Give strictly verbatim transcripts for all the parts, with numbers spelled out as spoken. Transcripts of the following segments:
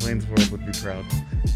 Wayne's World would be proud.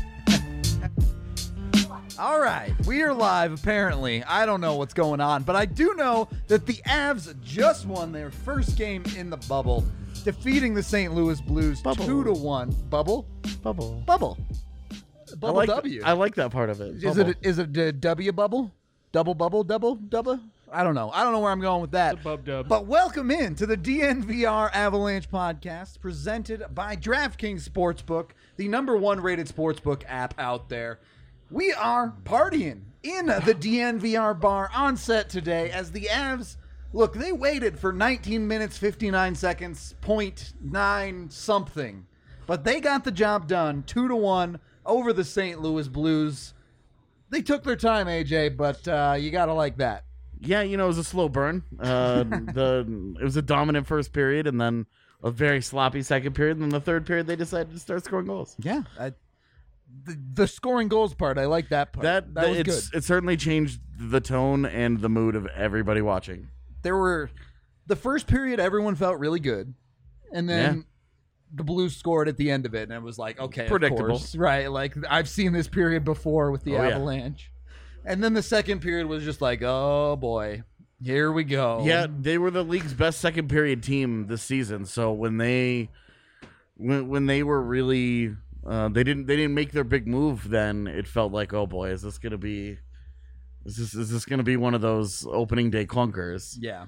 All right, we are live, apparently. I don't know what's going on, but I do know that the Avs just won their first game in the bubble, defeating the Saint Louis Blues Bubble. two to one. Bubble? Bubble. Bubble. Bubble I like, W. I like that part of it. Is Bubble. it is it a W bubble? Double bubble? Double? Double? I don't know. I don't know where I'm going with that. It's a bub dub. But welcome in to the D N V R Avalanche podcast presented by DraftKings Sportsbook, the number one rated sportsbook app out there. We are partying in the D N V R bar on set today as the Avs, look, they waited for nineteen minutes, fifty-nine seconds, point nine something. But they got the job done, two to one over the Saint Louis Blues. They took their time, A J, but uh, you got to like that. Yeah, you know, it was a slow burn. Uh, the It was a dominant first period and then a very sloppy second period. And then the third period, they decided to start scoring goals. Yeah. I, the, the scoring goals part, I like that part. That, that was it's, good. It certainly changed the tone and the mood of everybody watching. There were, the first period, everyone felt really good. And then Yeah. the Blues scored at the end of it. And it was like, okay, Predictable. of course. Right. Like, I've seen this period before with the Oh, yeah. Avalanche. And then the second period was just like, oh, boy. Here we go. Yeah, they were the league's best second period team this season. So when they when, when they were really uh, they didn't they didn't make their big move, then it felt like, oh boy, is this gonna be is this is this gonna be one of those opening day clunkers? Yeah.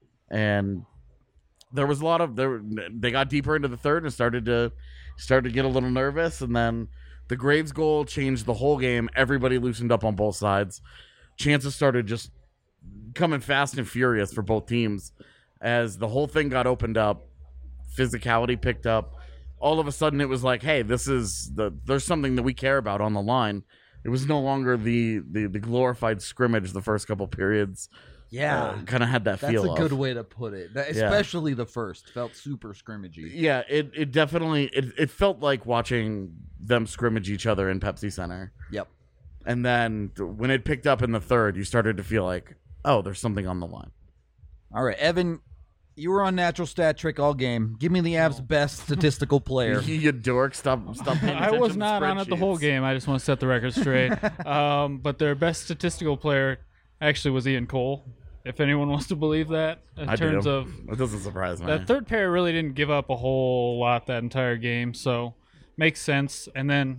And there was a lot of there they got deeper into the third and started to started to get a little nervous, and then the Graves goal changed the whole game. Everybody loosened up on both sides. Chances started just coming fast and furious for both teams as the whole thing got opened up. Physicality picked up. All of a sudden, it was like, hey, this is the there's something that we care about on the line. It was no longer the the, the glorified scrimmage the first couple periods. Yeah. Uh, kind of had that That's feel a of. good way to put it. That- Yeah. Especially the first. Felt super scrimmagey. Yeah, it, it definitely it, it felt like watching them scrimmage each other in Pepsi Center. Yep. And then when it picked up in the third, you started to feel like, oh, there's something on the line. All right, Evan, you were on Natural Stat Trick all game. Give me the Avs' best statistical player. You dork, stop, stop paying I attention was to not on it the whole spreadsheets. game. I just want to set the record straight. um, but their best statistical player actually was Ian Cole, if anyone wants to believe that. In I terms do. of It doesn't surprise me. that third pair really didn't give up a whole lot that entire game, so makes sense. And then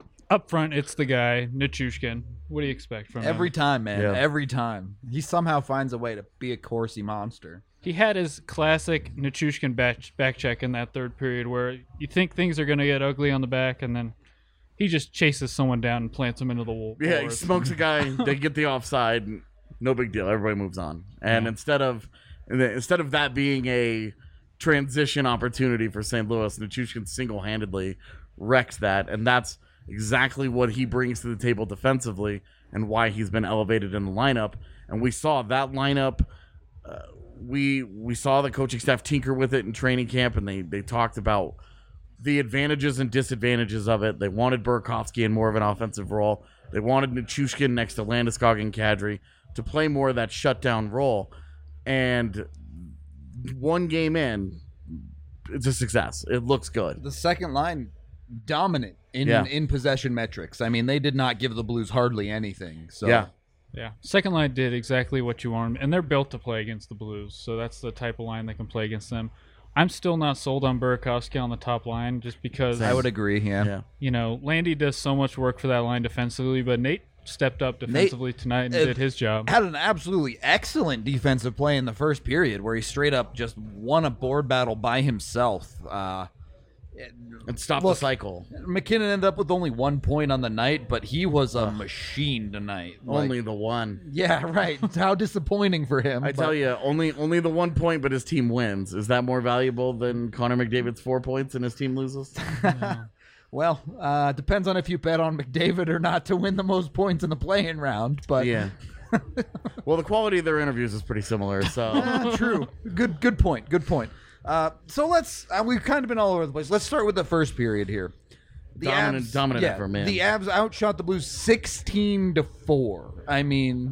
up front, it's the guy, Nichushkin. What do you expect from Every him? time, man. Yeah. Every time. He somehow finds a way to be a Corsi monster. He had his classic Nichushkin back, back check in that third period where you think things are going to get ugly on the back, and then he just chases someone down and plants him into the wall. Yeah, he smokes a guy. They get the offside. No big deal. Everybody moves on. And Yeah. instead of instead of that being a transition opportunity for Saint Louis, Nichushkin single-handedly wrecks that, and that's exactly what he brings to the table defensively and why he's been elevated in the lineup. And we saw that lineup. Uh, we we saw the coaching staff tinker with it in training camp, and they they talked about the advantages and disadvantages of it. They wanted Burakovsky in more of an offensive role. They wanted Nichushkin next to Landeskog and Kadri to play more of that shutdown role. And one game in, it's a success. It looks good. The second line, dominant in, Yeah. in possession metrics. I mean, they did not give the Blues hardly anything. So Yeah. Yeah, second line did exactly what you want, and they're built to play against the Blues, so that's the type of line that can play against them. I'm still not sold on Burakovsky on the top line just because, I would agree, yeah. Yeah. you know, Landy does so much work for that line defensively, but Nate stepped up defensively tonight and uh, did his job. Had an absolutely excellent defensive play in the first period where he straight up just won a board battle by himself. Uh, And stop Look, the cycle. McKinnon ended up with only one point on the night, but he was a machine tonight. Like, Only the one. yeah, right. How disappointing for him. I but- tell you, only only the one point, but his team wins. Is that more valuable than Connor McDavid's four points and his team loses? Well, uh, depends on if you bet on McDavid or not to win the most points in the play-in round. But Yeah. Well, the quality of their interviews is pretty similar, so Ah, true. Good, good point. Good point. Uh, so let's. Uh, we've kind of been all over the place. Let's start with the first period here. The Dominant- Avs, dominant yeah, effort, man. The Avs outshot the Blues sixteen to four. I mean,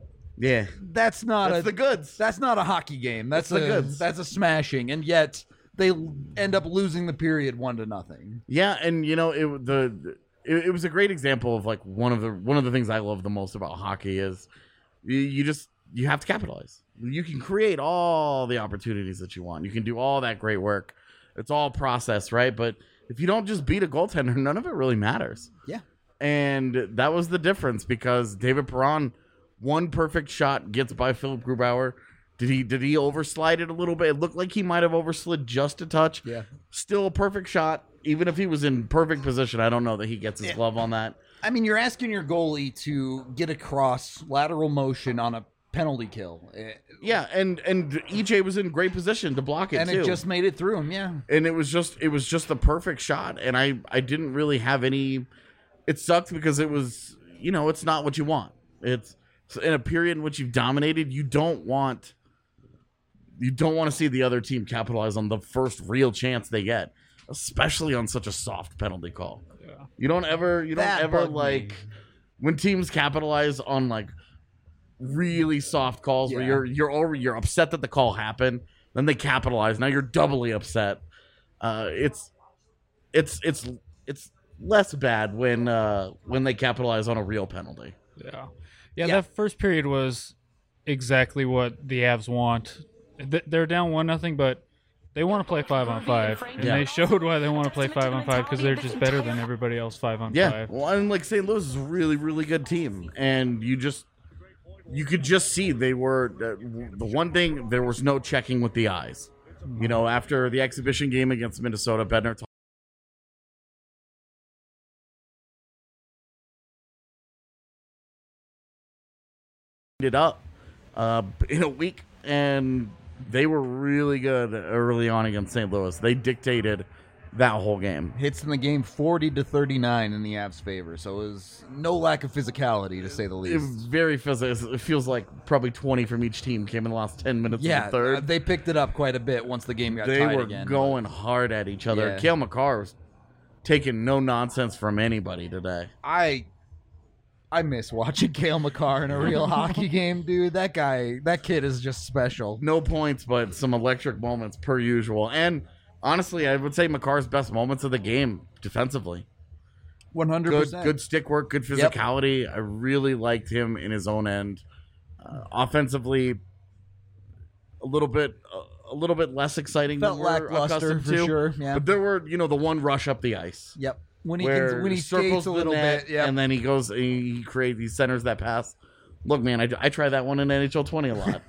yeah. that's not That's a the goods. That's not a hockey game. That's, That's the a, goods. That's a smashing, and yet they end up losing the period one to nothing. Yeah, and you know it the it, it was a great example of like one of the one of the things I love the most about hockey is you, you just you have to capitalize. You can create all the opportunities that you want. You can do all that great work. It's all process, right? But if you don't just beat a goaltender, none of it really matters. Yeah. And that was the difference because David Perron, one perfect shot gets by Philip Grubauer. Did he did he overslide it a little bit? It looked like he might have overslid just a touch. Yeah. Still a perfect shot. Even if he was in perfect position, I don't know that he gets his yeah. glove on that. I mean, you're asking your goalie to get across lateral motion on a penalty kill. Yeah, and and E J was in great position to block it and too. it just made it through him. Yeah. And it was just it was just the perfect shot, and I I didn't really have any. It sucked because it was, you know, it's not what you want. It's in a period in which you've dominated. You don't want. You don't want to see the other team capitalize on the first real chance they get, especially on such a soft penalty call. Yeah. You don't ever, you don't That ever bugged like me. when teams capitalize on like really soft calls Yeah. where you're you're over, you're upset that the call happened, then they capitalize. Now you're doubly upset. Uh, it's it's it's it's less bad when uh, when they capitalize on a real penalty. Yeah. yeah, Yeah. That first period was exactly what the Avs want. Th- They're down one nothing, but they want to play five on five, and Yeah. they showed why they want to play five on five because they're just better than everybody else five on Yeah, five. well, and like Saint Louis is a really really good team, and you just you could just see they were uh, the one thing there was no checking with the eyes. You know, after the exhibition game against Minnesota, Bednar talked it up uh, in a week, and they were really good early on against Saint Louis. They dictated that whole game. Hits in the game forty to thirty-nine in the Avs' favor, so it was no lack of physicality, to say the It was least. very physical. It feels like probably twenty from each team came in the last ten minutes Yeah, of the third. uh, they picked it up quite a bit once the game got They tied were again. going hard at each other. Yeah. Cale Makar was taking no nonsense from anybody today. I I miss watching Cale Makar in a real hockey game, dude. That guy, that kid is just special. No points, but some electric moments per usual. And honestly, I would say Makar's best moments of the game defensively. one hundred Good, percent. good stick work, good Yep. physicality. I really liked him in his own end. Uh, offensively, a little bit, uh, a little bit less exciting Felt than we're lackluster accustomed for to. sure. Yeah. But there were, you know, the one rush up the ice. Yep. When he where can, when he circles skates a the little net, bit, yeah. and then he goes, he creates, he centers that pass. Look, man, I, I try that one in N H L twenty a lot.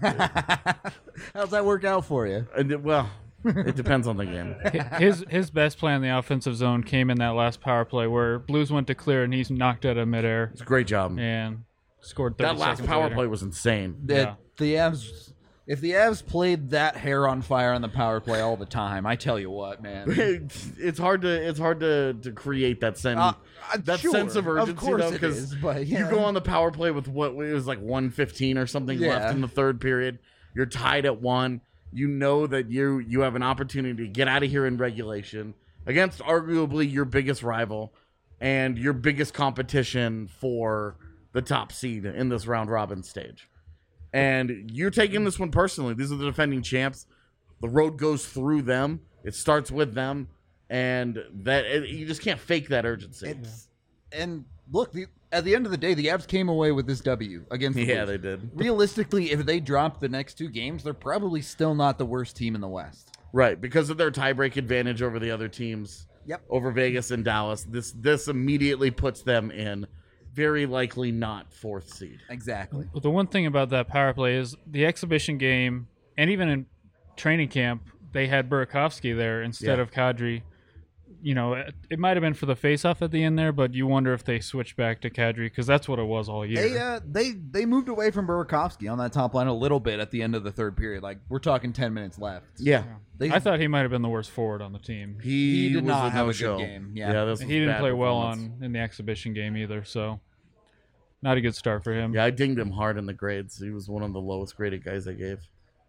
How's that work out for you? And it- well, it depends on the game. His his best play in the offensive zone came in that last power play where Blues went to clear and he's knocked out of midair It's a great job. and scored thirty That last seconds power later. play was insane. The, Yeah. the Avs, if the Avs played that hair on fire on the power play all the time, I tell you what, man. It's, it's hard to it's hard to, to create that sense Uh, uh, that sure, sense of urgency course though, it because is, but you yeah. go on the power play with what it was like one fifteen or something Yeah. left in the third period. You're tied at one. You know that you you have an opportunity to get out of here in regulation against arguably your biggest rival and your biggest competition for the top seed in this round robin stage. And you're taking this one personally. These are the defending champs. The road goes through them. It starts with them, and that it, you just can't fake that urgency. It's, and look, the, at the end of the day, the Avs came away with this W against the Yeah, Blues. they did. Realistically, if they drop the next two games, they're probably still not the worst team in the West. Right, because of their tiebreak advantage over the other teams. Yep. Over Vegas and Dallas. This this immediately puts them in very likely not fourth seed. Exactly. But the one thing about that power play is the exhibition game, and even in training camp, they had Burakovsky there instead Yeah. of Kadri. You know, it, it might have been for the face-off at the end there, but you wonder if they switched back to Kadri because that's what it was all year. They uh, they they moved away from Burakovsky on that top line a little bit at the end of the third period. Like we're talking ten minutes left. Yeah. They, I thought he might have been the worst forward on the team. He, He did was not a have a good no-show. game, yeah. this was He didn't bad play well performance. on in the exhibition game either, so not a good start for him. Yeah, I dinged him hard in the grades. He was one of the lowest graded guys I gave.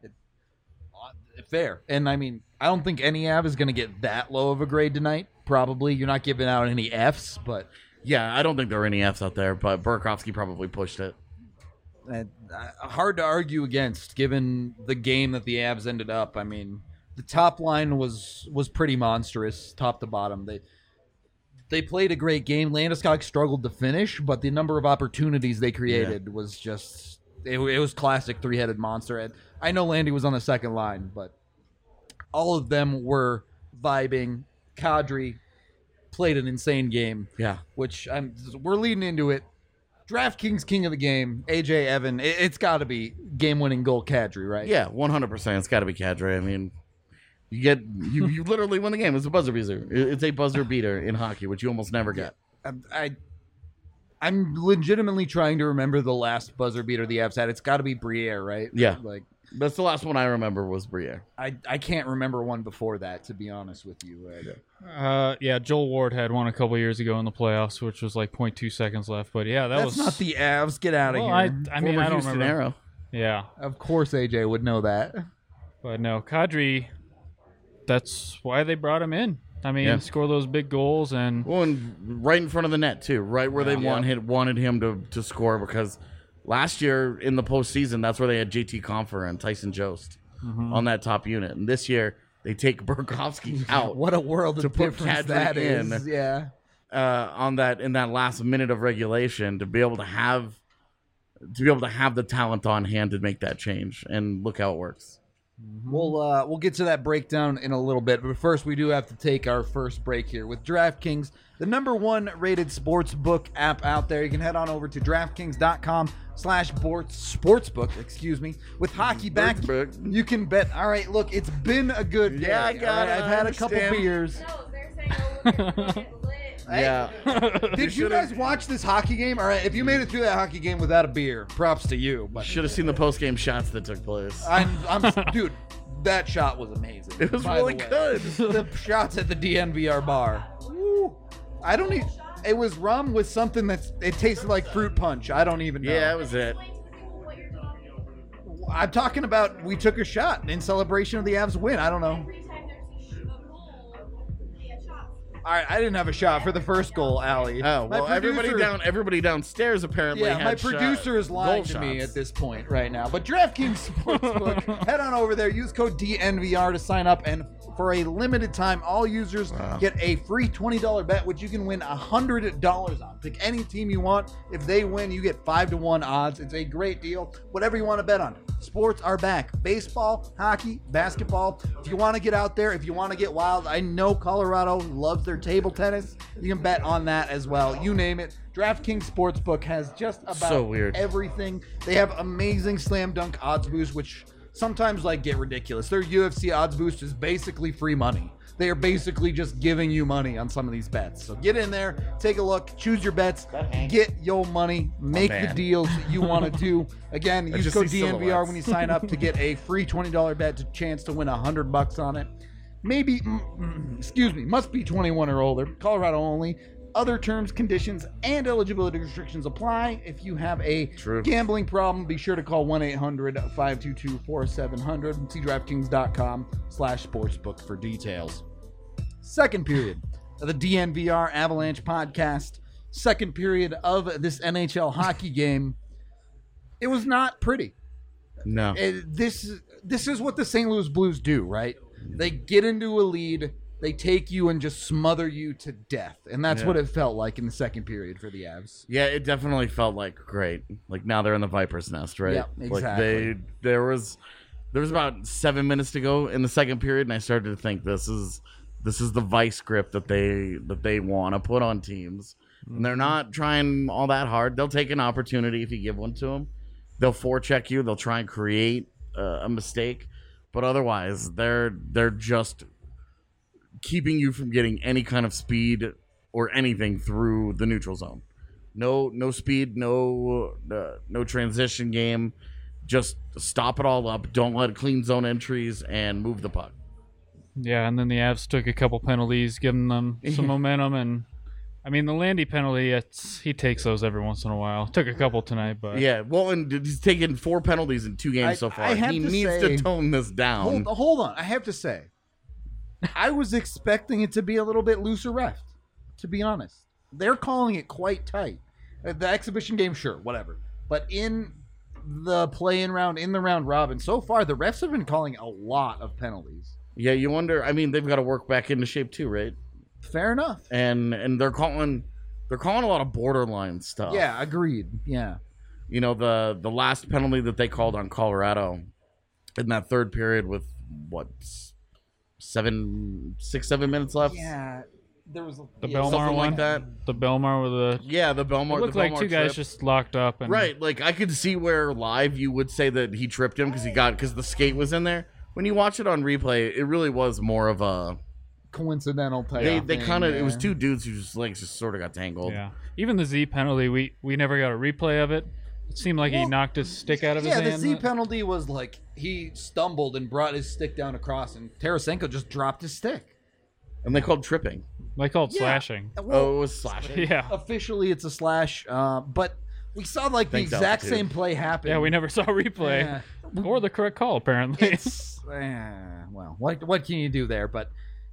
fair. And I mean, I don't think any Av is going to get that low of a grade tonight. Probably you're not giving out any Fs, but Yeah, I don't think there were any Fs out there, but Burakovsky probably pushed it. uh, hard to argue against given the game that the Avs ended up. I mean, the top line was was pretty monstrous, top to bottom. They they played a great game. Landeskog struggled to finish, but the number of opportunities they created yeah. was just it, it was classic three-headed monster. And I know Landy was on the second line, but all of them were vibing. Kadri played an insane game. Yeah, which I'm we're leading into it. DraftKings king of the game, A J Evan. It, it's got to be game-winning goal, Kadri, right? Yeah, one hundred percent. It's got to be Kadri. I mean, you get you, you literally win the game. It's a buzzer beater. It's a buzzer beater in hockey, which you almost never get. I, I I'm legitimately trying to remember the last buzzer beater the Avs had. It's got to be Briere, right? Yeah, like that's the last one I remember was Briere. I I can't remember one before that, to be honest with you. Right? Uh, yeah, Joel Ward had one a couple years ago in the playoffs, which was like zero point two seconds left. But yeah, that That's was not the Avs. Get out of well, here. I, I mean, Former I don't Houston remember. Arrow. Yeah, of course A J would know that. But no, Kadri. That's why they brought him in. I mean, Yeah. score those big goals and Well, and right in front of the net too, right where they Yeah. wanted wanted him to, to score, because last year in the postseason, that's where they had J T Compher and Tyson Jost on that top unit, and this year they take Burakovsky out What a world to of put difference Kadri that in. is. Yeah. uh, on that in that last minute of regulation to be able to have to be able to have the talent on hand to make that change, and look how it works. We'll uh, we'll get to that breakdown in a little bit, but first we do have to take our first break here with DraftKings, the number one rated sports book app out there. You can head on over to DraftKings.com slash sportsbook, excuse me. With hockey back, Sportsbook. you can bet. All right, look, it's been a good day. Yeah, I all got right? it, I've I had a couple understand. beers. No, they're saying, oh, look at lit, lit. Yeah. Did you guys watch this hockey game? All right, if you made it through that hockey game without a beer, props to you. But Should have seen the post game shots that took place. I'm, I'm, dude, that shot was amazing. It was by the really way. good. The shots at the D N V R bar. Woo. I don't even. It was rum with something that's. It tasted like fruit punch. I don't even know. Yeah, that was it. Explain to the people what you're talking about. I'm talking about. We took a shot in celebration of the Avs win. I don't know. Every time there's a, sh- a goal, they get shots. All right, I didn't have a shot for the first goal, Allie. Oh My well, everybody producer- down, everybody downstairs apparently. Yeah, had my shot- producer is lying goal to me shots. at this point right now. But DraftKings Sportsbook, head on over there. Use code D N V R to sign up, and for a limited time, all users Wow. get a free twenty dollars bet, which you can win one hundred dollars on. Pick any team you want. If they win, you get five to one odds. It's a great deal. Whatever you want to bet on. Sports are back. Baseball, hockey, basketball. If you want to get out there, if you want to get wild, I know Colorado loves their table tennis. You can bet on that as well. You name it. DraftKings Sportsbook has just about So weird. everything. They have amazing slam dunk odds boosts, which sometimes like get ridiculous. Their U F C odds boost is basically free money. They are basically just giving you money on some of these bets. So get in there, take a look, choose your bets, get your money, make the man. deals you want to do. Again, I use just code see D N V R silhouettes. when you sign up to get a free twenty dollars bet, to chance to win one hundred bucks on it. Maybe, mm, mm, excuse me, must be twenty-one or older. Colorado only. Other terms, conditions, and eligibility restrictions apply. If you have a True. gambling problem, be sure to call one eight hundred five two two four seven zero zero and see DraftKings.com slash sportsbook for details. Second period of the D N V R Avalanche podcast. Second period of this N H L hockey game. It was not pretty. No. It- this, this is what the Saint Louis Blues do, right? They get into a lead. They take you and just smother you to death. And that's Yeah. what it felt like in the second period for the Avs. Yeah, it definitely felt like great. Like now they're in the Viper's nest, right? Yeah, Like exactly. they there was there was about seven minutes to go in the second period, and I started to think this is this is the vice grip that they that they want to put on teams. And they're not trying all that hard. They'll take an opportunity if you give one to them. They'll forecheck you. They'll try and create uh, a mistake, but otherwise they're they're just keeping you from getting any kind of speed or anything through the neutral zone. No, no speed, no, uh, no transition game. Just stop it all up. Don't let clean zone entries and move the puck. yeah, and then the Avs took a couple penalties, giving them some momentum. And I mean, the Landy penalty, it's he takes those every once in a while. Took a couple tonight, but Yeah, well, and he's taken four penalties in two games I- so far. I have He to needs say- to tone this down. Hold, hold on. I have to say, I was expecting it to be a little bit looser ref, to be honest. They're calling it quite tight. Uh, The exhibition game, sure, whatever. But in the play-in round, in the round robin, so far, the refs have been calling a lot of penalties. Yeah, you wonder. I mean, they've got to work back into shape too, right? Fair enough. And and they're calling they're calling a lot of borderline stuff. Yeah, agreed. Yeah. You know, the the last penalty that they called on Colorado in that third period with what seven, six, seven minutes left. Yeah. There was The yeah, Belmar something one, like that. the Belmar with the Yeah, the Belmar. it looked the like Belmar two guys trip. just locked up and Right, like I could see where live you would say that he tripped him because he got because the skate was in there. When you watch it on replay, it really was more of a coincidental type. they of they thing, kind of it was yeah. two dudes whose legs just sort of got tangled. Yeah, even the Z penalty, we we never got a replay of it. It seemed like he Well, knocked his stick out of Yeah, his the hand. Z penalty was like he stumbled and brought his stick down across, and Tarasenko just dropped his stick. And they called tripping. They called Yeah. slashing. Well, Oh, it was slashing. Yeah, officially it's a slash, uh, but we saw like the Thanks, exact altitude. same play happen. yeah, we never saw a replay Yeah. or the correct call apparently. It's eh, well, what what can you do there? But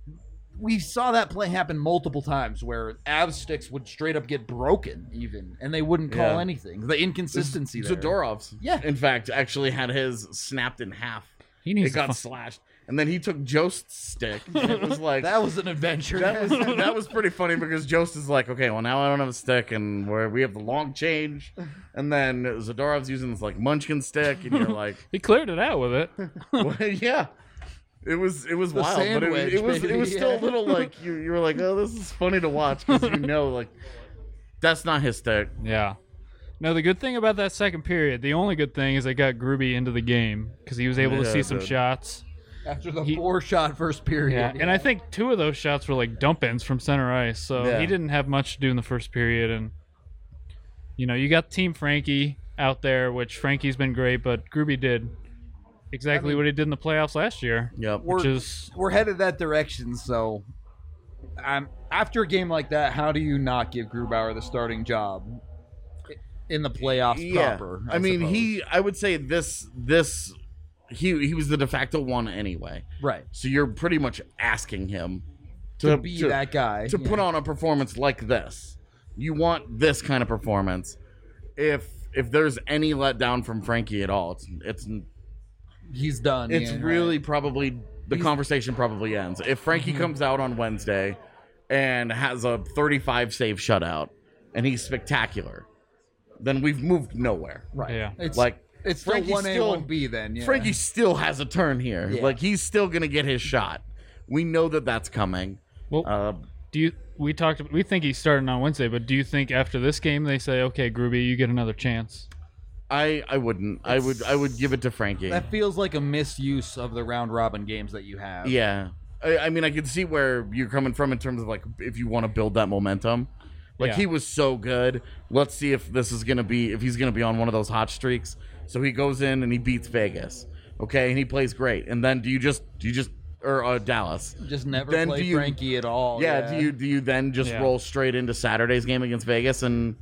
we saw that play happen multiple times where Avs sticks would straight up get broken, even, and they wouldn't call Yeah. anything. The inconsistency there. Zadorov's, Yeah. in fact, actually had his snapped in half. He needs It to got fu- slashed, and then he took Jost's stick. And it was like That was an adventure. that was that was pretty funny because Jost is like, okay, well now I don't have a stick, and where we have the long change, and then Zadorov's using this like Munchkin stick, and you're like, He cleared it out with it. well, yeah. It was it was The wild, but it, was- sandwich, it was it baby, was still yeah. a little like you you were like, oh, this is funny to watch because you know like that's not his stick. Yeah. No, the good thing about that second period, the only good thing is they got Gruby into the game because he was able to Yeah, see some dude. shots. After the He- four shot first period. Yeah, and I think two of those shots were like dump ins from center ice, so Yeah. he didn't have much to do in the first period. And you know, you got Team Frankie out there, which Frankie's been great, but Gruby did exactly I mean- what he did in the playoffs last year, Yep. which We're- is we're headed that direction. So, um, after a game like that, how do you not give Grubauer the starting job in the playoffs proper? I, mean, suppose? he. I would say this. This. He he was the de facto one anyway. right So you're pretty much asking him to, be that guy to yeah. put on a performance like this. You want this kind of performance. If if there's any letdown from Frankie at all, it's it's He's done. it's yeah, really right. probably the conversation probably ends. If Frankie Mm-hmm. comes out on Wednesday and has a thirty-five save shutout and he's spectacular, then we've moved nowhere. right. Yeah. It's Like it's still Frankie's one A, still- one B. Then yeah. Frankie still has a turn here. Yeah. Like he's still gonna get his shot. We know that that's coming. well. Uh, do you? We talked. We think he's starting on Wednesday, but do you think after this game they say, "Okay, Gruby, you get another chance"? I I wouldn't. I would I would give it to Frankie. That feels like a misuse of the round robin games that you have. Yeah. I, I mean, I can see where you're coming from in terms of like if you want to build that momentum. Like Yeah. he was so good. Let's see if this is gonna be if he's gonna be on one of those hot streaks. So he goes in and he beats Vegas. Okay, and he plays great. And then do you just do you just or uh, Dallas? Just never Then play do you- Frankie at all. Yeah, Do you do you then just Yeah. roll straight into Saturday's game against Vegas and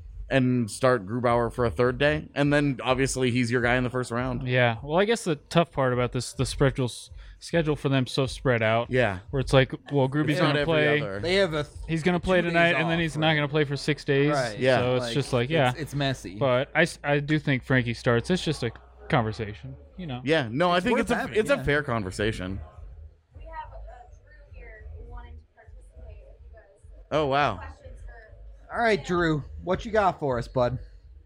and start Grubauer for a third day? And then obviously he's your guy in the first round. Yeah. Well, I guess the tough part about this, the schedule's schedule for them so spread out. Yeah. Where it's like, well, Gruby's It's not gonna every play. other. They have a He's gonna play two days tonight, and then off, he's right. not gonna play for six days. Right. Yeah. So it's like, just like, yeah. it's, it's messy. But I, s- I do think Frankie starts. It's just a conversation, you know. Yeah, no, I think worth it's a having, it's yeah. a fair conversation. We have uh, Drew here wanting to participate. If you guys Oh wow. questions for all right, Drew, what you got for us, bud?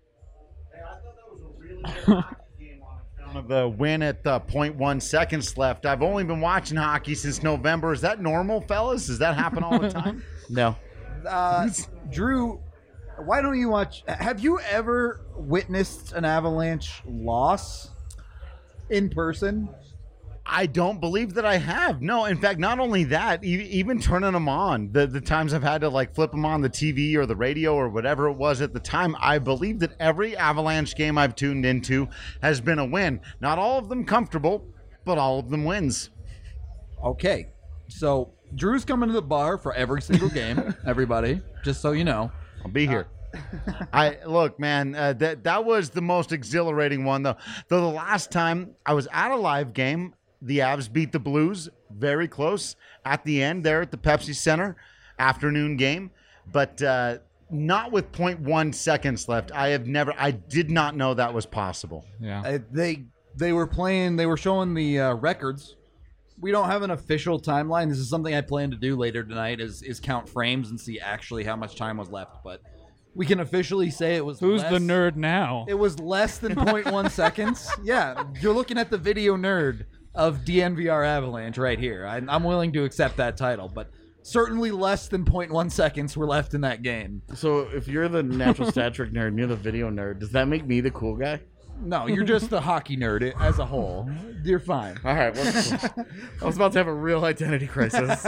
Of the win at the point one seconds left. I've only been watching hockey since November. Is that normal, fellas? Does that happen all the time? No. Uh, Drew, why don't you watch? Have you ever witnessed an Avalanche loss in person? I don't believe that I have. No, in fact, not only that, e- even turning them on, the, the times I've had to like flip them on the T V or the radio or whatever it was at the time, I believe that every Avalanche game I've tuned into has been a win. Not all of them comfortable, but all of them wins. Okay, so Drew's coming to the bar for every single game. Everybody, just so you know. I'll be here. I look, man. Uh, that that was the most exhilarating one, though. Though the last time I was at a live game, the Avs beat the Blues very close at the end there at the Pepsi Center afternoon game, but uh, not with point one seconds left. I have never. I did not know that was possible. Yeah. Uh, they they were playing. They were showing the uh, records we don't have an official timeline. This is something I plan to do later tonight. Is is count frames and see actually how much time was left. But we can officially say it was. Who's less, the nerd now? It was less than zero point one seconds. Yeah, you're looking at the video nerd of D N V R Avalanche right here. I, I'm willing to accept that title, but certainly less than zero point one seconds were left in that game. So if you're the natural stat trick nerd and you're the video nerd, does that make me the cool guy? No, you're just the hockey nerd as a whole. You're fine. All right. Well, I was about to have a real identity crisis.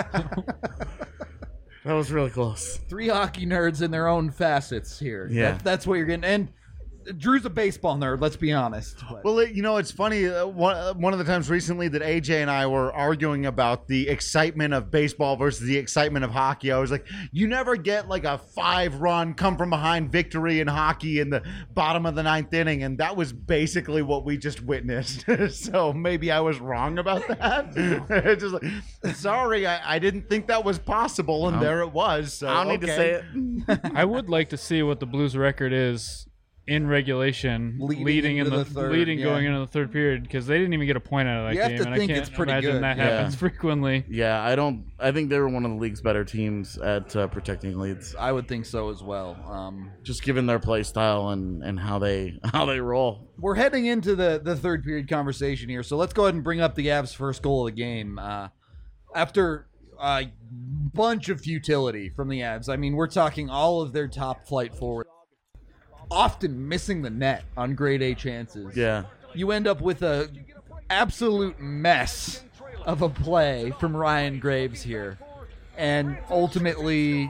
That was really close. Three hockey nerds in their own facets here. Yeah. That, that's what you're getting. And Drew's a baseball nerd, let's be honest. But. Well, it, you know, it's funny. Uh, one, uh, one of the times recently that A J and I were arguing about the excitement of baseball versus the excitement of hockey, I was like, you never get like a five-run come-from-behind victory in hockey in the bottom of the ninth inning, and that was basically what we just witnessed. So maybe I was wrong about that. It's just like, sorry, I, I didn't think that was possible, and there it was. So, I don't need to okay. say it. I would like to see what the Blues record is in regulation, Leading leading, in into the, the third, leading yeah. going into the third period, because they didn't even get a point out of that You have game, to and think I can't it's pretty imagine good. that Yeah. happens frequently. Yeah, I don't. I think they were one of the league's better teams at uh, protecting leads, I would think so as well. Um, just given their play style and, and how they how they roll. we're heading into the, the third period conversation here, so let's go ahead and bring up the Avs' first goal of the game. Uh, after a bunch of futility from the Avs, I mean, we're talking all of their top flight forward, often missing the net on grade A chances. Yeah. You end up with a absolute mess of a play from Ryan Graves here, and ultimately,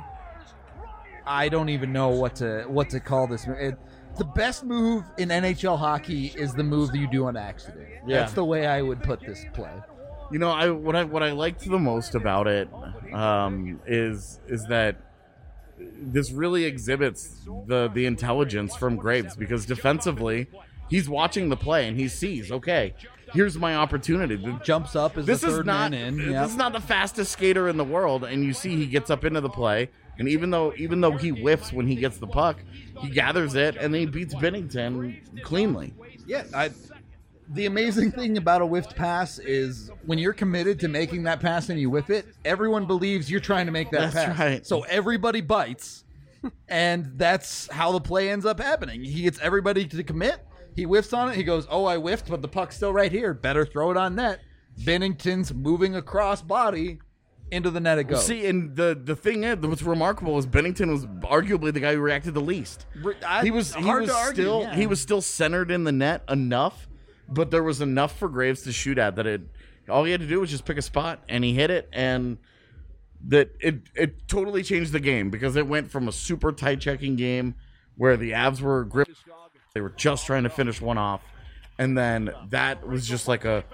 I don't even know what to what to call this. It, the best move in N H L hockey is the move that you do on accident. Yeah. That's the way I would put this play. You know, I what I what I liked the most about it um, is is that this really exhibits the the intelligence from Graves, because defensively, he's watching the play and he sees, okay, here's my opportunity. The- Jumps up as This the is third not man in. this Yep. is not the fastest skater in the world, and you see he gets up into the play, and even though even though he whiffs when he gets the puck, he gathers it and then he beats Bennington cleanly. Yeah, I, the amazing thing about a whiffed pass is when you're committed to making that pass and you whiff it, everyone believes you're trying to make that That's pass. right. So everybody bites, and that's how the play ends up happening. He gets everybody to commit. He whiffs on it. He goes, oh, I whiffed, but the puck's still right here. Better throw it on net. Bennington's moving across body into the net it goes. See, and the the thing is, what's remarkable is Bennington was arguably the guy who reacted the least. I- He was he hard was to argue, still yeah. he was still centered in the net enough, but there was enough for Graves to shoot at that it all he had to do was just pick a spot and he hit it, and that it it totally changed the game, because it went from a super tight checking game where the Avs were gripped, they were just trying to finish one off, and then that was just like a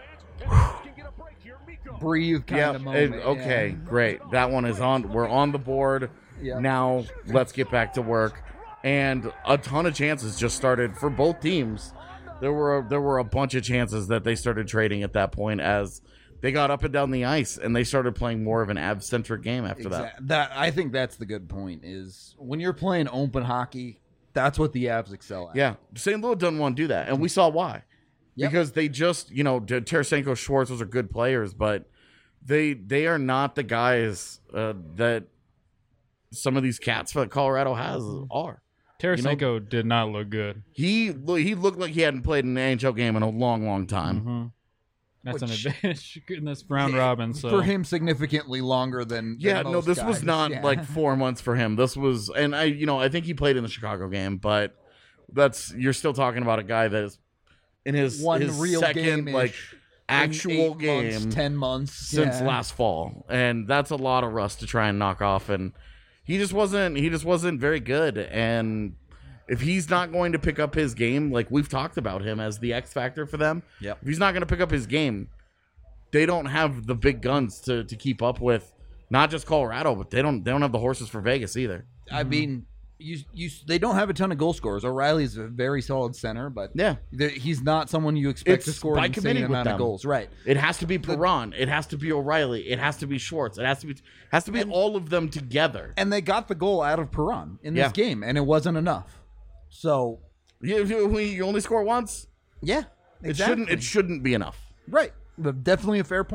breathe kind yeah, of moment. okay, yeah. great. That one is on. We're on the board. Yeah. Now let's get back to work. And a ton of chances just started for both teams. There were there were a bunch of chances that they started trading at that point as they got up and down the ice, and they started playing more of an Avs-centric game after that. Exact- that I think that's the good point. Is when you're playing open hockey, that's what the Avs excel at. Yeah, Saint Louis doesn't want to do that, and we saw why. Yep. Because they just, you know, Tarasenko, Schwartz, those are good players, but they they are not the guys uh, that some of these cats that Colorado has are. Tarasenko did not look good. He he looked like he hadn't played an N H L game in a long, long time. hmm That's Which- an advantage in this round robin. So For him, significantly longer than. than Yeah, no, most this was guys. not Yeah. like four months for him. This was, and I, you know, I think he played in the Chicago game, but that's you're still talking about a guy that is in his one his real second game, like actual game months, ten months since yeah. last fall, and that's a lot of rust to try and knock off. And he just wasn't he just wasn't very good. And if he's not going to pick up his game, like we've talked about him as the X factor for them, Yep. if he's not going to pick up his game, they don't have the big guns to, to keep up with not just Colorado, but they don't they don't have the horses for Vegas either. I mean, you you they don't have a ton of goal scorers. O'Reilly's a very solid center, but Yeah. the- he's not someone you expect to It's score by an insane committing with amount of them. goals. Right. It has to be Perron, it has to be O'Reilly, it has to be Schwartz, it has to be has to be all of them together. And they got the goal out of Perron in this Yeah. game, and it wasn't enough. So You, you, you only score once. yeah, It shouldn't it shouldn't be enough. Right. But definitely a fair point.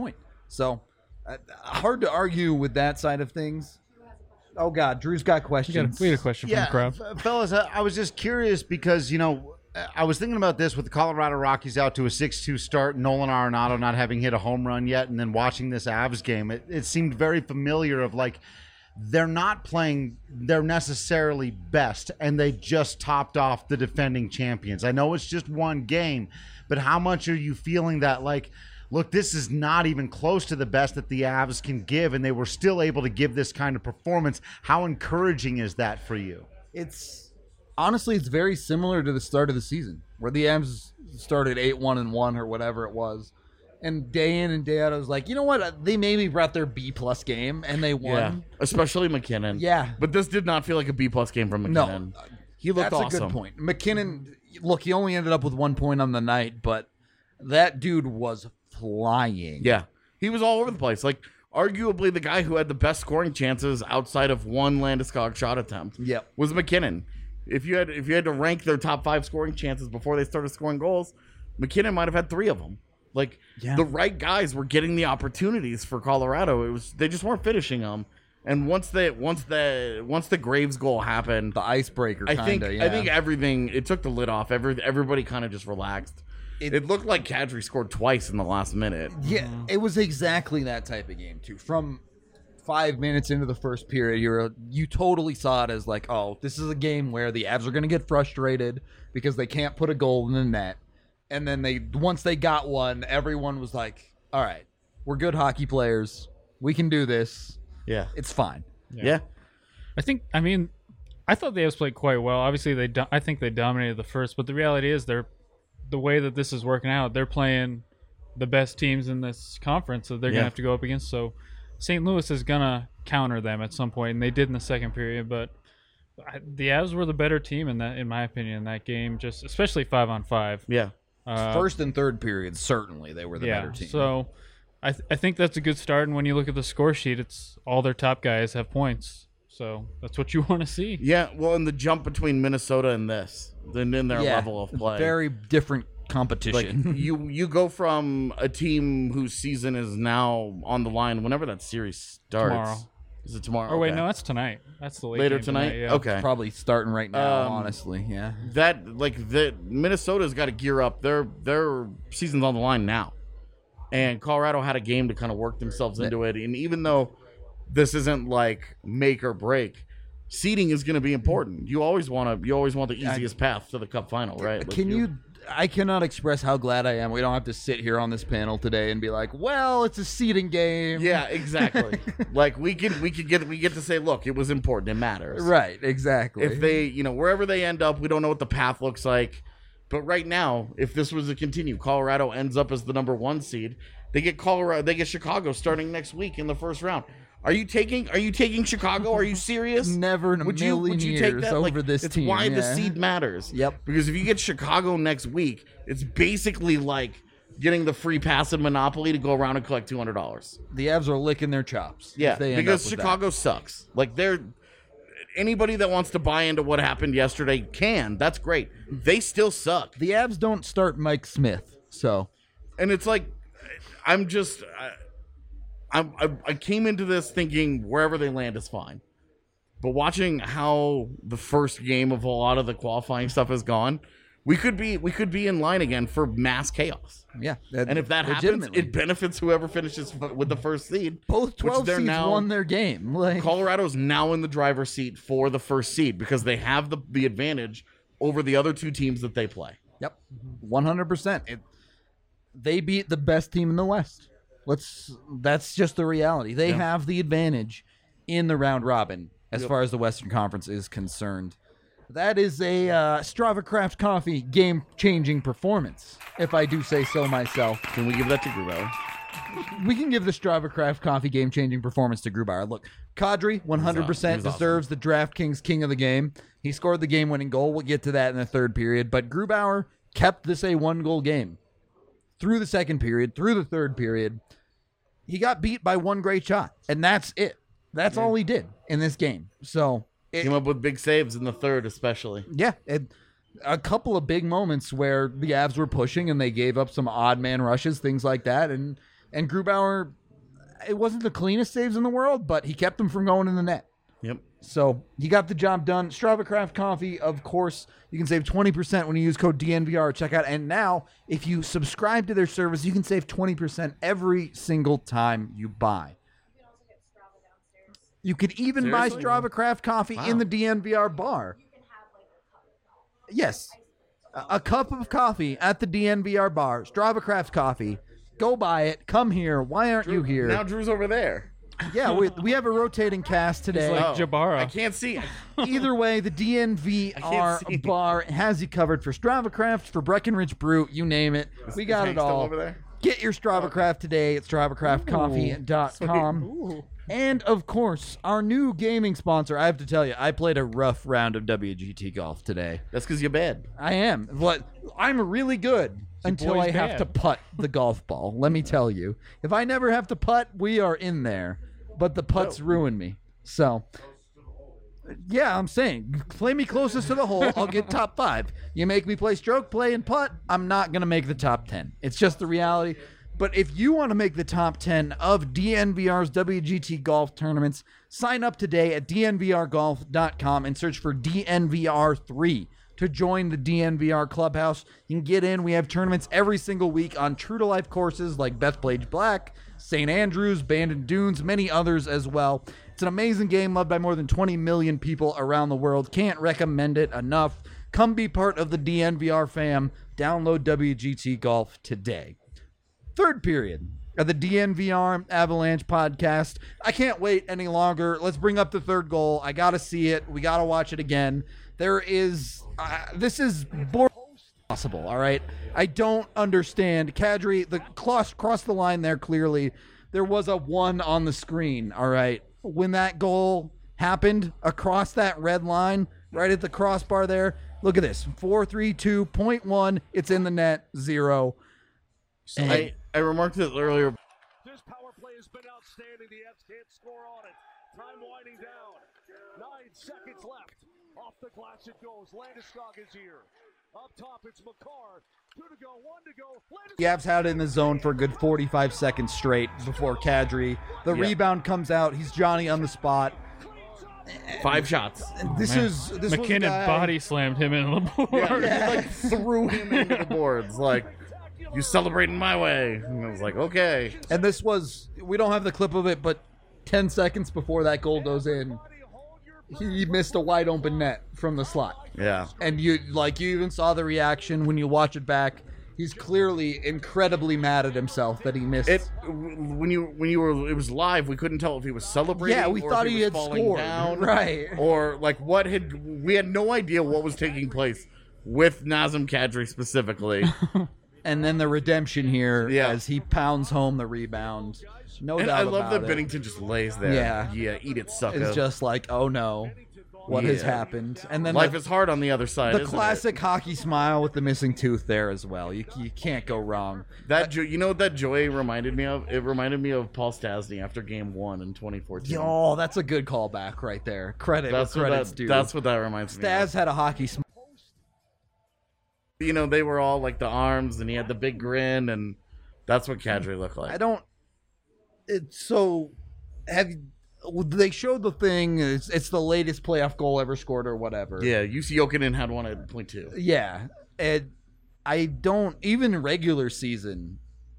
So uh, hard to argue with that side of things. Oh God, Drew's got We got, questions. a, we had a question Yeah, from the crowd. f- fellas, I, I was just curious because, you know, I was thinking about this with the Colorado Rockies out to a six two start, Nolan Arenado not having hit a home run yet, and then watching this Avs game. It, it seemed very familiar of like, they're not playing their necessarily best, and they just topped off the defending champions. I know it's just one game, but how much are you feeling that, like, look, this is not even close to the best that the Avs can give, and they were still able to give this kind of performance? How encouraging is that for you? It's honestly, it's very similar to the start of the season, where the Avs started eight one and one or whatever it was, and day in and day out, I was like, you know what? They maybe brought their B plus game and they won. Yeah, especially McKinnon. Yeah. But this did not feel like a B plus game from No, McKinnon. He looked that's awesome. a good point. McKinnon, look, he only ended up with one point on the night, but that dude was flying. Yeah. He was all over the place. Like, arguably the guy who had the best scoring chances outside of one Landeskog shot attempt Yep. was McKinnon. If you had if you had to rank their top five scoring chances before they started scoring goals, McKinnon might have had three of them. Like, Yeah. the right guys were getting the opportunities for Colorado. It was they just weren't finishing them. And once the once the once the Graves goal happened, The icebreaker, I kind think of. Yeah. I think everything it took the lid off. Every everybody kind of just relaxed. It- It, looked like Kadri scored twice in the last minute. Yeah, it was exactly that type of game too. From five minutes into the first period, you're you totally saw it as like, oh, this is a game where the Avs are going to get frustrated because they can't put a goal in the net, and then they once they got one, everyone was like, all right, we're good hockey players, we can do this, Yeah, it's fine. yeah. I think. I mean, I thought the Avs played quite well. Obviously, they. Do- I think they dominated the first, but the reality is, they're the way that this is working out. They're playing the best teams in this conference that they're Yeah. gonna have to go up against. So, Saint Louis is gonna counter them at some point, and they did in the second period. But I, the Avs were the better team in that, in my opinion, in that game. Just especially five on five. Yeah. Uh, First and third periods, certainly they were the yeah. better team. So, I th- I think that's a good start. And when you look at the score sheet, it's all their top guys have points. So that's what you want to see. Yeah, well, in the jump between Minnesota and this, then in their yeah, level of play, very different like competition. you you go from a team whose season is now on the line whenever that series starts. Tomorrow. Is it tomorrow? Or wait, Okay. no, that's tonight. That's the late Later game tonight. yeah. Okay. Probably starting right now, Um, honestly. Yeah. That like the Minnesota's got to gear up. Their their season's on the line now, and Colorado had a game to kind of work themselves into it. And even though this isn't like make or break, seeding is going to be important. You always want to. You always want the easiest path to the Cup final, right? Like, Can you? I cannot express how glad I am. We don't have to sit here on this panel today and be like, "Well, it's a seeding game." Yeah, exactly. Like we can we can get we get to say, look, it was important. It matters. Right. Exactly. If they, you know, wherever they end up, we don't know what the path looks like. But right now, if this was to continue, Colorado ends up as the number one seed. They get Colorado, they get Chicago starting next week in the first round. Are you taking? Are you taking Chicago? Are you serious? Never in a would you, million would you years take that? over Like, this it's team. why the yeah. seed matters. Yep. Because if you get Chicago next week, it's basically like getting the free pass in Monopoly to go around and collect two hundred dollars. The Avs are licking their chops. if Yeah, they end because up with Chicago sucks. Like they're anybody that wants to buy into what happened yesterday can. That's great. They still suck. that. The Avs don't start Mike Smith, so And it's like I'm just I, I'm- I, I came into this thinking wherever they land is fine, but watching how the first game of a lot of the qualifying stuff has gone, we could be we could be in line again for mass chaos. yeah. And if that happens, legitimately. it benefits whoever finishes f- with the first seed. both which twelve they're seeds now- won their game. Like Colorado's now in the driver's seat for the first seed because they have the, the advantage over the other two teams that they play. Yep, one hundred percent. They beat the best team in the West. Let's. That's just the reality. They Yeah. have the advantage in the round robin as Yep. far as the Western Conference is concerned. That is a uh, Strava Craft Coffee game-changing performance, if I do say so myself. Can we give that to Grubauer? We can give the Strava Craft Coffee game-changing performance to Grubauer. Look, Kadri one hundred percent He was awesome. deserves the DraftKings King of the Game. He scored the game-winning goal. We'll get to that in the third period. But Grubauer kept this a one-goal game through the second period, through the third period. He got beat by one great shot, and that's it. That's all he did in this game. So, it, Came up with big saves in the third, especially. yeah, it, a couple of big moments where the Avs were pushing and they gave up some odd man rushes, things like that, and and Grubauer it wasn't the cleanest saves in the world, but he kept them from going in the net. Yep. So he got the job done. Strava Craft Coffee, of course, you can save twenty percent when you use code D N V R at checkout. And now, if you subscribe to their service, you can save twenty percent every single time you buy. You can also get Strava downstairs. You could even Seriously? buy Strava Craft Coffee Wow. in the D N V R bar. You can have like a cup of coffee. Yes. A, a cup of coffee at the D N V R bar. Strava Craft Coffee. Go buy it. Come here. Why aren't you here? Now Drew's over there. Yeah, we, we have a rotating cast today. like Oh, Jabara. I can't see. Either way, the D N V R can't see. bar has you covered for Strava Craft, for Breckenridge Brew, you name it. We Is got Hank it still all. over there? Get your Strava Craft today at strava craft coffee dot com. And of course, our new gaming sponsor. I have to tell you, I played a rough round of W G T golf today. That's because you're bad. I am. What? I'm really good until boy's I have bad. to putt the golf ball. Let me tell you. If I never have to putt, we are in there. But the putts ruin me. So, yeah, I'm saying, play me closest to the hole, I'll get top five. You make me play stroke play and putt, I'm not going to make the top ten. It's just the reality. But if you want to make the top ten of D N V R's W G T golf tournaments, sign up today at D N V R golf dot com and search for D N V R three to join the D N V R clubhouse. You can get in. We have tournaments every single week on true to life courses like Bethpage Black, Saint Andrews, Bandon Dunes, many others as well. It's an amazing game loved by more than twenty million people around the world. Can't recommend it enough. Come be part of the D N V R fam. Download W G T Golf today. Third period of the D N V R Avalanche podcast. I can't wait any longer. Let's bring up the third goal. I got to see it. We got to watch it again. There is, uh, this is boring possible, all right? I don't understand. Kadri, the cross, cross the line there clearly. There was a one on the screen, all right? When that goal happened across that red line, right at the crossbar there, look at this. four three two point one, it's in the net, zero. And- I, I remarked this earlier. This power play has been outstanding. The Avs can't score on it. Time winding down. Nine seconds left. Off the glass it goes. Landeskog is here. Up top, it's McCarr. Two to go, one to go. Landeskog. The Avs had it in the zone for a good forty-five seconds straight before Kadri. The Yeah. rebound comes out. He's Johnny on the spot. Five shots. This Man. is this was a McKinnon guy- body slammed him into the board. Yeah, he like threw him into the boards. Like, you celebrating my way. And I was like, okay. And this was, we don't have the clip of it, but ten seconds before that goal goes in, he missed a wide open net from the slot. Yeah. And you, like, you even saw the reaction when you watch it back. He's clearly incredibly mad at himself that he missed. It when you when you were it was live, we couldn't tell if he was celebrating. Yeah, we or thought if he was had falling scored. down, Right. Or like what had we had no idea what was taking place with Nazem Kadri specifically. And then the redemption here Yeah. as he pounds home the rebound. No And doubt I love about that it. Bennington just lays there. Yeah. yeah, eat it, sucker. It's just like, oh no, what has Yeah. happened? And then Life the, is hard on the other side. the isn't classic hockey smile with the missing tooth there as well. You you can't go wrong. It? That jo- you know what that joy reminded me of. It reminded me of Paul Stastny after Game One in twenty fourteen. Oh, that's a good callback right there. Credit that's where what credit's that, due. that's what that reminds me. Staz of. had a hockey smile. You know, they were all like the arms, and he had the big grin, and that's what Kadri looked like. I don't. It's so. Have you- they showed the thing? It's, it's the latest playoff goal ever scored or whatever. Yeah, U C Jokinen had one at point two. Yeah, and I don't even regular season.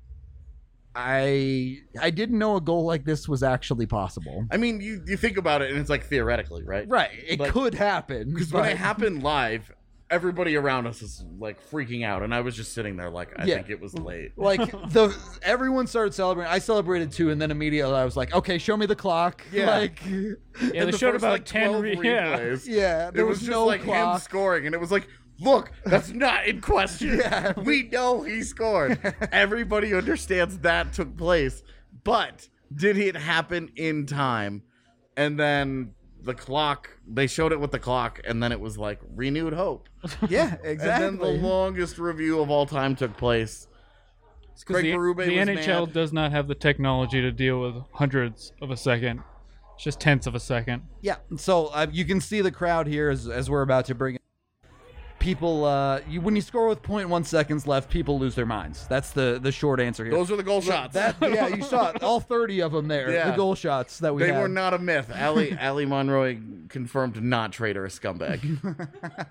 I I didn't know a goal like this was actually possible. I mean, you, you think about it, and it's like theoretically, right? Right, it Like- could happen Because when but- it happened live, everybody around us is like freaking out, and I was just sitting there like, I Yeah. think it was late. Like the everyone started celebrating. I celebrated too, and then immediately I was like, "Okay, show me the clock." Yeah. Like, Yeah, And they the showed first, about like, ten. twelve Re- yeah. replays, yeah, there it was, was, just no like him clock. scoring, and it was like, look, that's not in question. Yeah. We know he scored. Everybody understands that took place, but did it happen in time? And then the clock, they showed it with the clock, and then it was like renewed hope. Yeah, And then exactly. the longest review of all time took place. 'Cause Craig the, Berube the was N H L mad. does not have the technology to deal with hundreds of a second. It's just tenths of a second. Yeah, so uh, you can see the crowd here as, as we're about to bring it. people, uh, you, when you score with zero point one seconds left, people lose their minds. That's the, the short answer here. Those are the goal shots. That yeah, you saw it, all thirty of them there. Yeah. The goal shots that we They had. were not a myth. Ali Ali Monroy confirmed to not trade her a scumbag.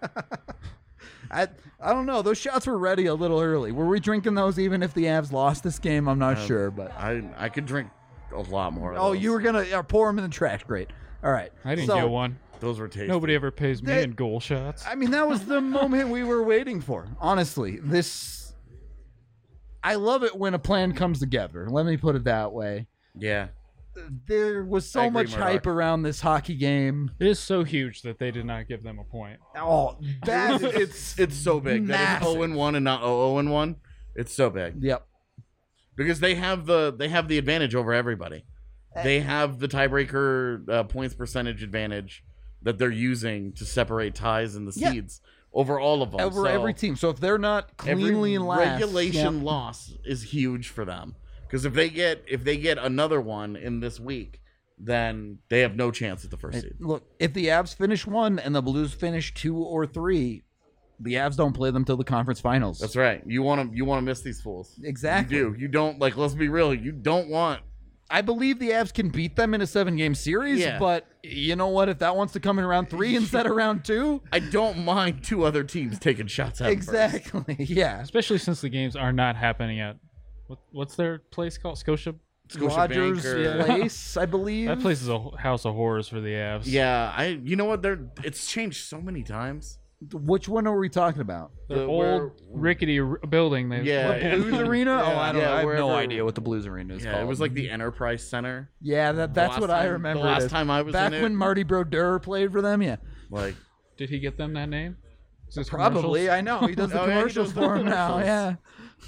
I I don't know. Those shots were ready a little early. Were we drinking those even if the Avs lost this game? I'm not sure, but I I could drink a lot more. Of oh, those. you were gonna uh, pour them in the trash. Great. All right. I didn't So, get one. Those were tasty. Nobody ever pays me They- in goal shots. I mean, that was the moment we were waiting for. Honestly, this. I love it when a plan comes together. Let me put it that way. Yeah. There was I so agree, much Murdoch. hype around this hockey game. It is so huge that they did not give them a point. Oh, that It's it's so big. That Massive. is zero and one and not zero and one. It's so big Yep. because they have the they have the advantage over everybody. They have the tiebreaker uh, points percentage advantage that they're using to separate ties and the Yeah. seeds over all of them. Over So every team. So if they're not cleanly every in last, regulation yeah. loss is huge for them because if they get if they get another one in this week, then they have no chance at the first seed. Look, if the Avs finish one and the Blues finish two or three, the Avs don't play them till the conference finals. That's right. You want to you want to miss these fools. Exactly. You do. You don't like. Let's be real. You don't want. I believe the Avs can beat them in a seven-game series, Yeah. but you know what? If that wants to come in round three instead of round two, I don't mind two other teams taking shots at 'em first. exactly, yeah. Especially since the games are not happening at what, what's their place called? Scotia. Scotia Rogers Bank or- Place, I believe. That place is a house of horrors for the Avs. Yeah, I. You know what? They're. It's changed so many times. Which one are we talking about? the The- old where- rickety r- building. They Yeah. The Blues Arena? Oh, I don't Yeah, know. I have no wherever- idea what the Blues Arena is Yeah, called. it was like the Enterprise Center. Yeah, that, that's last what I time- remember. the it last as. time I was back in it. when Marty Brodeur played for them. Yeah, Like, Did he get them that name? Is this probably. commercials? I know he does the Oh, yeah, he commercials does the for him now. commercials. Yeah.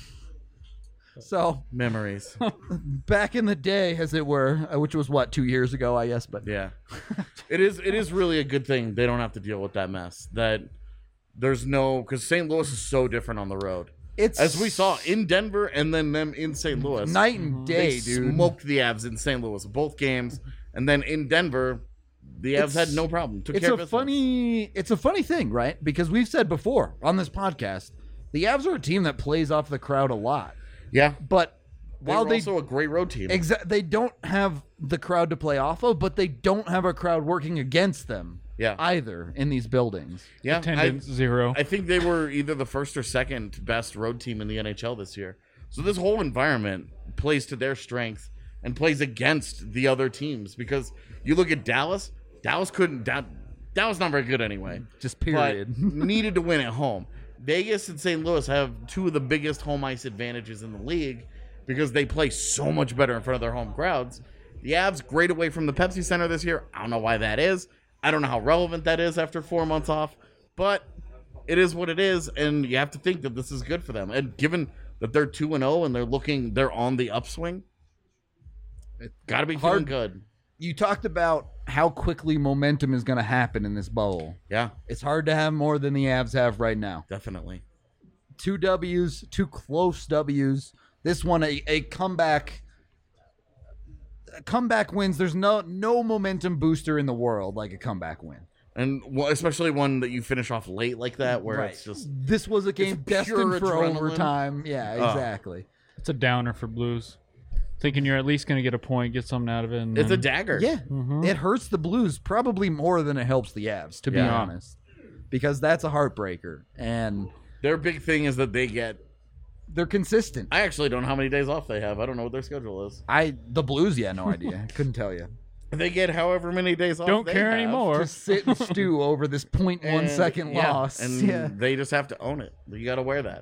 So memories. back in the day, as it were, uh, which was what two years ago, I guess. But Yeah, it is. It is really a good thing they don't have to deal with that mess. That there's no because Saint Louis is so different on the road, it's as we saw in Denver and then them in Saint Louis. night and day, they dude. smoked the Avs in Saint Louis both games, and then in Denver, the Avs It's- had no problem. Took It's care a of business. funny, it's a funny thing, right? Because we've said before on this podcast, the Avs are a team that plays off the crowd a lot, Yeah, but they while were they also a great road team. exa- they don't have the crowd to play off of, but they don't have a crowd working against them. Yeah. either in these buildings. yeah, I, Attendance zero. I think they were either the first or second best road team in the N H L this year. So this whole environment plays to their strength and plays against the other teams because you look at Dallas. Dallas couldn't. Da- Dallas not very good anyway. Just period. But needed to win at home. Vegas and Saint Louis have two of the biggest home ice advantages in the league because they play so much better in front of their home crowds. The Avs great away from the Pepsi Center this year. I don't know why that is. I don't know how relevant that is after four months off, but it is what it is, and you have to think that this is good for them. And given that they're two and zero and they're looking, they're on the upswing. It's got to be feeling Hard- good. You talked about how quickly momentum is going to happen in this bubble. Yeah, It's hard to have more than the Avs have right now. definitely. Two W's, two close W's. This one, a, a comeback. Comeback wins. There's no no momentum booster in the world like a comeback win. And well, especially one that you finish off late like that, where it's just This was a game pure destined for adrenaline. overtime. Yeah, Oh. exactly. It's a downer for Blues. Thinking you're at least going to get a point, get something out of it. And it's a then- dagger. Yeah, Mhm. it hurts the Blues probably more than it helps the Avs, to be Yeah. honest, because that's a heartbreaker, and Their big thing is that they get. they're consistent. I actually don't know how many days off they have. I don't know what their schedule is. I the Blues, yeah, no idea, couldn't tell you. They get however many days off. Don't they care have. anymore. Just sit and stew over this point one And- second yeah, loss. and yeah, they just have to own it. You got to wear that.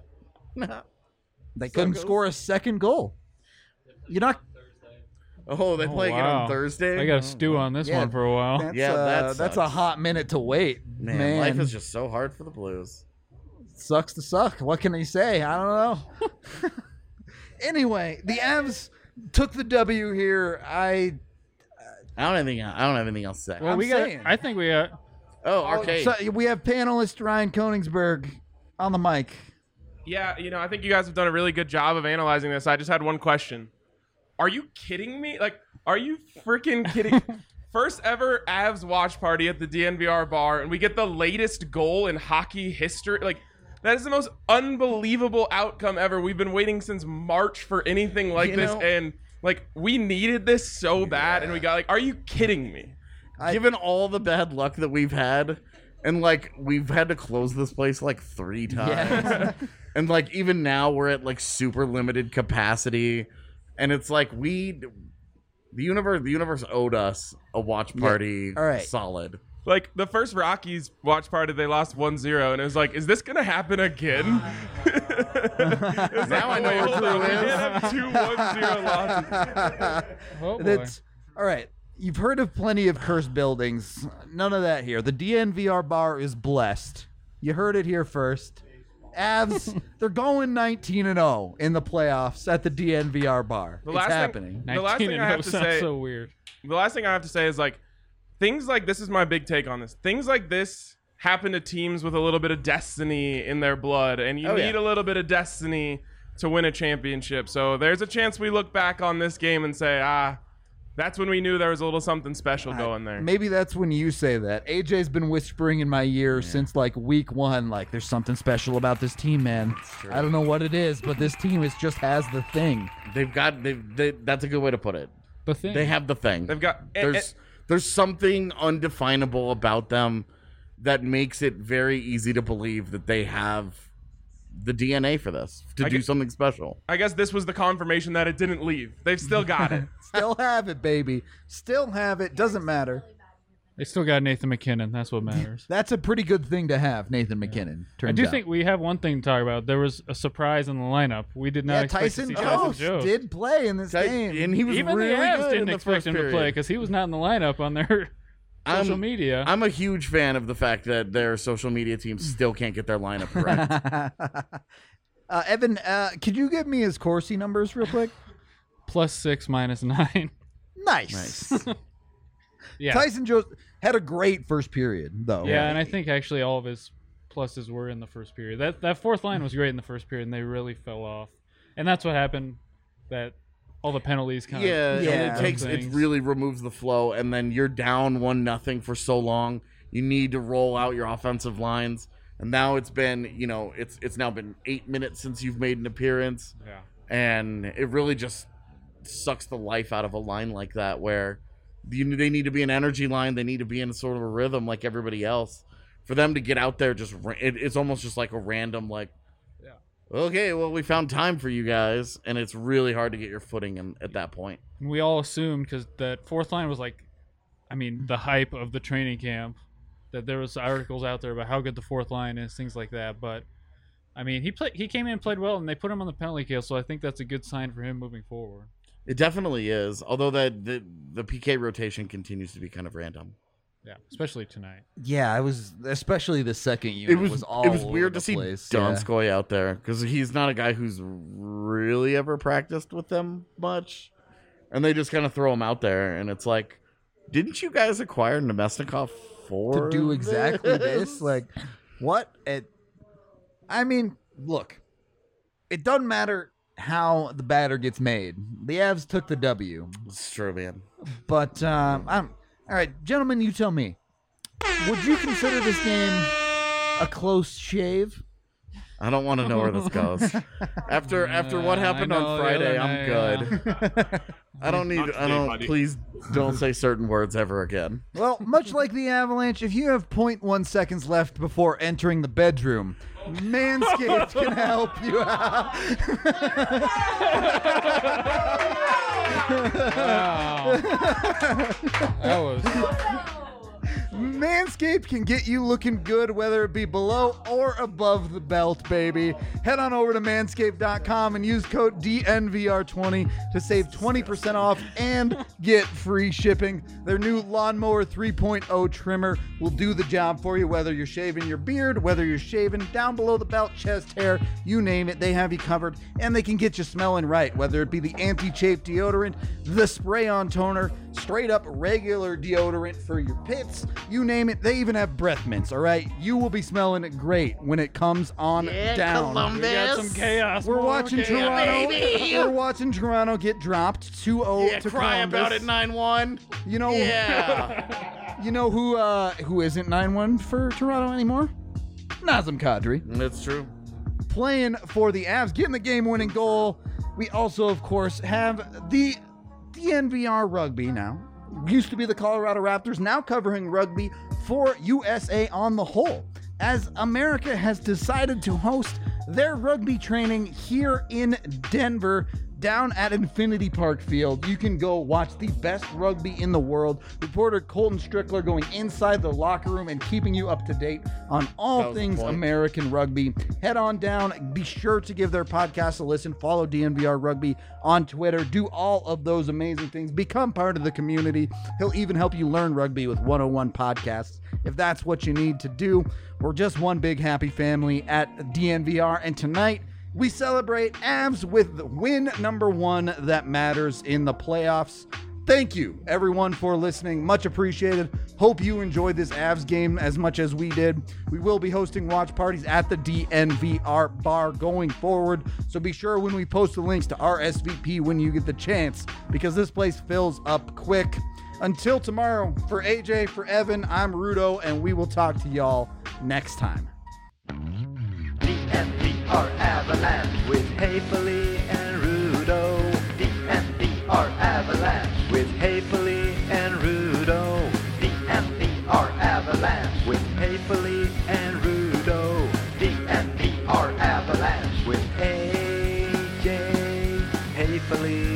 they so couldn't goes- score a second goal. You're not. Oh, they Oh, play again wow. on Thursday. I got to stew on this Yeah. one for a while. That's, Yeah, uh, that that's a sucks. hot minute to wait, Man, man. life is just so hard for the Blues. Sucks to suck. What can he say? I don't know. Anyway, the Avs took the W here. I I don't have anything. I don't have anything else to say. Well, I'm we got. saying. I think we got. oh, arcade. So we have panelist Ryan Koenigsberg on the mic. Yeah, you know, I think you guys have done a really good job of analyzing this. I just had one question. Are you kidding me? Like, are you freaking kidding? first ever Avs watch party at the D N V R bar, and we get the latest goal in hockey history. Like, that is the most unbelievable outcome ever. We've been waiting since March for anything like You this, know- and like we needed this so bad, and we got like, are you kidding me? Given all the bad luck that we've had, and like we've had to close this place like three times, Yeah. and like even now we're at like super limited capacity, and it's like we, the universe, the universe owed us a watch party. All right. Solid. Like, the first Rockies watch party, they lost one zero, and it was like, is this going to happen again? Now I know Wait, what hold Drew on, we is. did have two one zero losses. Oh boy. That's all right. You've heard of plenty of cursed buildings. None of that here. The D N V R bar is blessed. You heard it here first. Avs, they're going nineteen and oh in the playoffs at the D N V R bar. The It's last thing- happening. The last nineteen thing and I oh have to sounds say- so weird. The last thing I have to say is, like, things like this is my big take on this. Things like this happen to teams with a little bit of destiny in their blood, and you Oh, need yeah. a little bit of destiny to win a championship. So there's a chance we look back on this game and say, ah, that's when we knew there was a little something special going there. Maybe that's when you say that. A J's been whispering in my ear since like week one, like there's something special about this team, man. I don't know what it is, but this team is just has the thing. They've got. They've. They, that's a good way to put it. The thing. They have the thing. They've got There's. There's something undefinable about them that makes it very easy to believe that they have the D N A for this to I do get- something special. I guess this was the confirmation that it didn't leave. They've still got it. Still have it, baby. Still have it. Doesn't matter. They still got Nathan McKinnon. That's what matters. That's a pretty good thing to have, Nathan McKinnon. Turns I do out. think we have one thing to talk about. There was a surprise in the lineup. We did not yeah, expect Tyson to see Tyson Jost Jost. did play in this Ty- game. and he was Even really the Avs good didn't in the expect first him period. to play because he was not in the lineup on their social I'm- media. I'm a huge fan of the fact that their social media team still can't get their lineup correct. uh, Evan, uh, could you give me his Corsi numbers real quick? Plus six, minus nine. Nice. Nice. Yeah. Tyson Jost had a great first period, though. Yeah, and I think actually all of his pluses were in the first period. That that fourth line was great in the first period, and they really fell off. And that's what happened. That all the penalties kind Yeah, of Yeah. and it takes it things. really removes the flow, and then you're down one nothing for so long. You need to roll out your offensive lines, and now it's been you know it's it's now been eight minutes since you've made an appearance, Yeah. and it really just sucks the life out of a line like that where you, they need to be an energy line. They need to be in sort of a rhythm like everybody else. For them to get out there, just ra- it, it's almost just like a random like. Okay, well, we found time for you guys, and it's really hard to get your footing in, at that point. And we all assumed because that fourth line was like, I mean, the hype of the training camp. That there was articles out there about how good the fourth line is, things like that. But I mean, he played. He came in and played well, and they put him on the penalty kill. So I think that's a good sign for him moving forward. It definitely is, although that the, the P K rotation continues to be kind of random. Yeah, especially tonight. Yeah, I was especially the second unit It was, all it was over weird the to see place. Yeah. Donskoy out there because he's not a guy who's really ever practiced with them much, and they just kind of throw him out there, and it's like, didn't you guys acquire Nemesnikov for to do exactly this? this. Like, what? It, I mean, look, it doesn't matter how the batter gets made. The Avs took the W, It's true, man. but um, I'm all right, gentlemen. You tell me. Would you consider this game a close shave? I don't want to know where this goes. After after what Uh, happened I know on the Friday, other I'm night, good. I don't need. Not I today, don't. buddy. Please don't say certain words ever again. Well, much like the Avalanche, if you have zero point one seconds left before entering the bedroom, Manscaped can help you out. Wow. that was. Manscaped can get you looking good, whether it be below or above the belt, baby. Head on over to manscaped dot com and use code D N V R twenty to save twenty percent off and get free shipping. Their new Lawnmower three point oh trimmer will do the job for you, whether you're shaving your beard, whether you're shaving down below the belt, chest hair, you name it, they have you covered, and they can get you smelling right, whether it be the anti-chafe deodorant, the spray-on toner, straight up regular deodorant for your pits, you name it. They even have breath mints, all right? You will be smelling it great when it comes on down. We got some chaos. We're more watching chaos. Toronto. We're watching Toronto get dropped two oh Yeah, to cry Columbus. about it, nine one. You know, Yeah. you know who uh, who isn't nine one for Toronto anymore? Nazem Kadri. That's true. Playing for the Avs, getting the game-winning goal. We also, of course, have the D N V R Rugby now. Used to be the Colorado Raptors, now covering rugby for U S A on the whole, as America has decided to host their rugby training here in Denver, down at Infinity Park Field. You can go watch the best rugby in the world. Reporter Colton Strickler going inside the locker room and keeping you up to date on That all was the things point. American rugby. Head on down. Be sure to give their podcast a listen. Follow D N V R Rugby on Twitter. Do all of those amazing things. Become part of the community. He'll even help you learn rugby with one oh one podcasts if that's what you need to do. We're just one big happy family at D N V R, and tonight we celebrate Avs with win number one that matters in the playoffs. Thank you, everyone, for listening. Much appreciated. Hope you enjoyed this Avs game as much as we did. We will be hosting watch parties at the D N V R bar going forward, so be sure when we post the links to R S V P when you get the chance, because this place fills up quick. Until tomorrow, for A J, for Evan, I'm Rudo, and we will talk to y'all next time. D N V R Avalanche with Haefele and Rudo. D N V R Avalanche with Haefele and Rudo. D N V R Avalanche with Haefele and Rudo. D N V R Avalanche with A J Haefele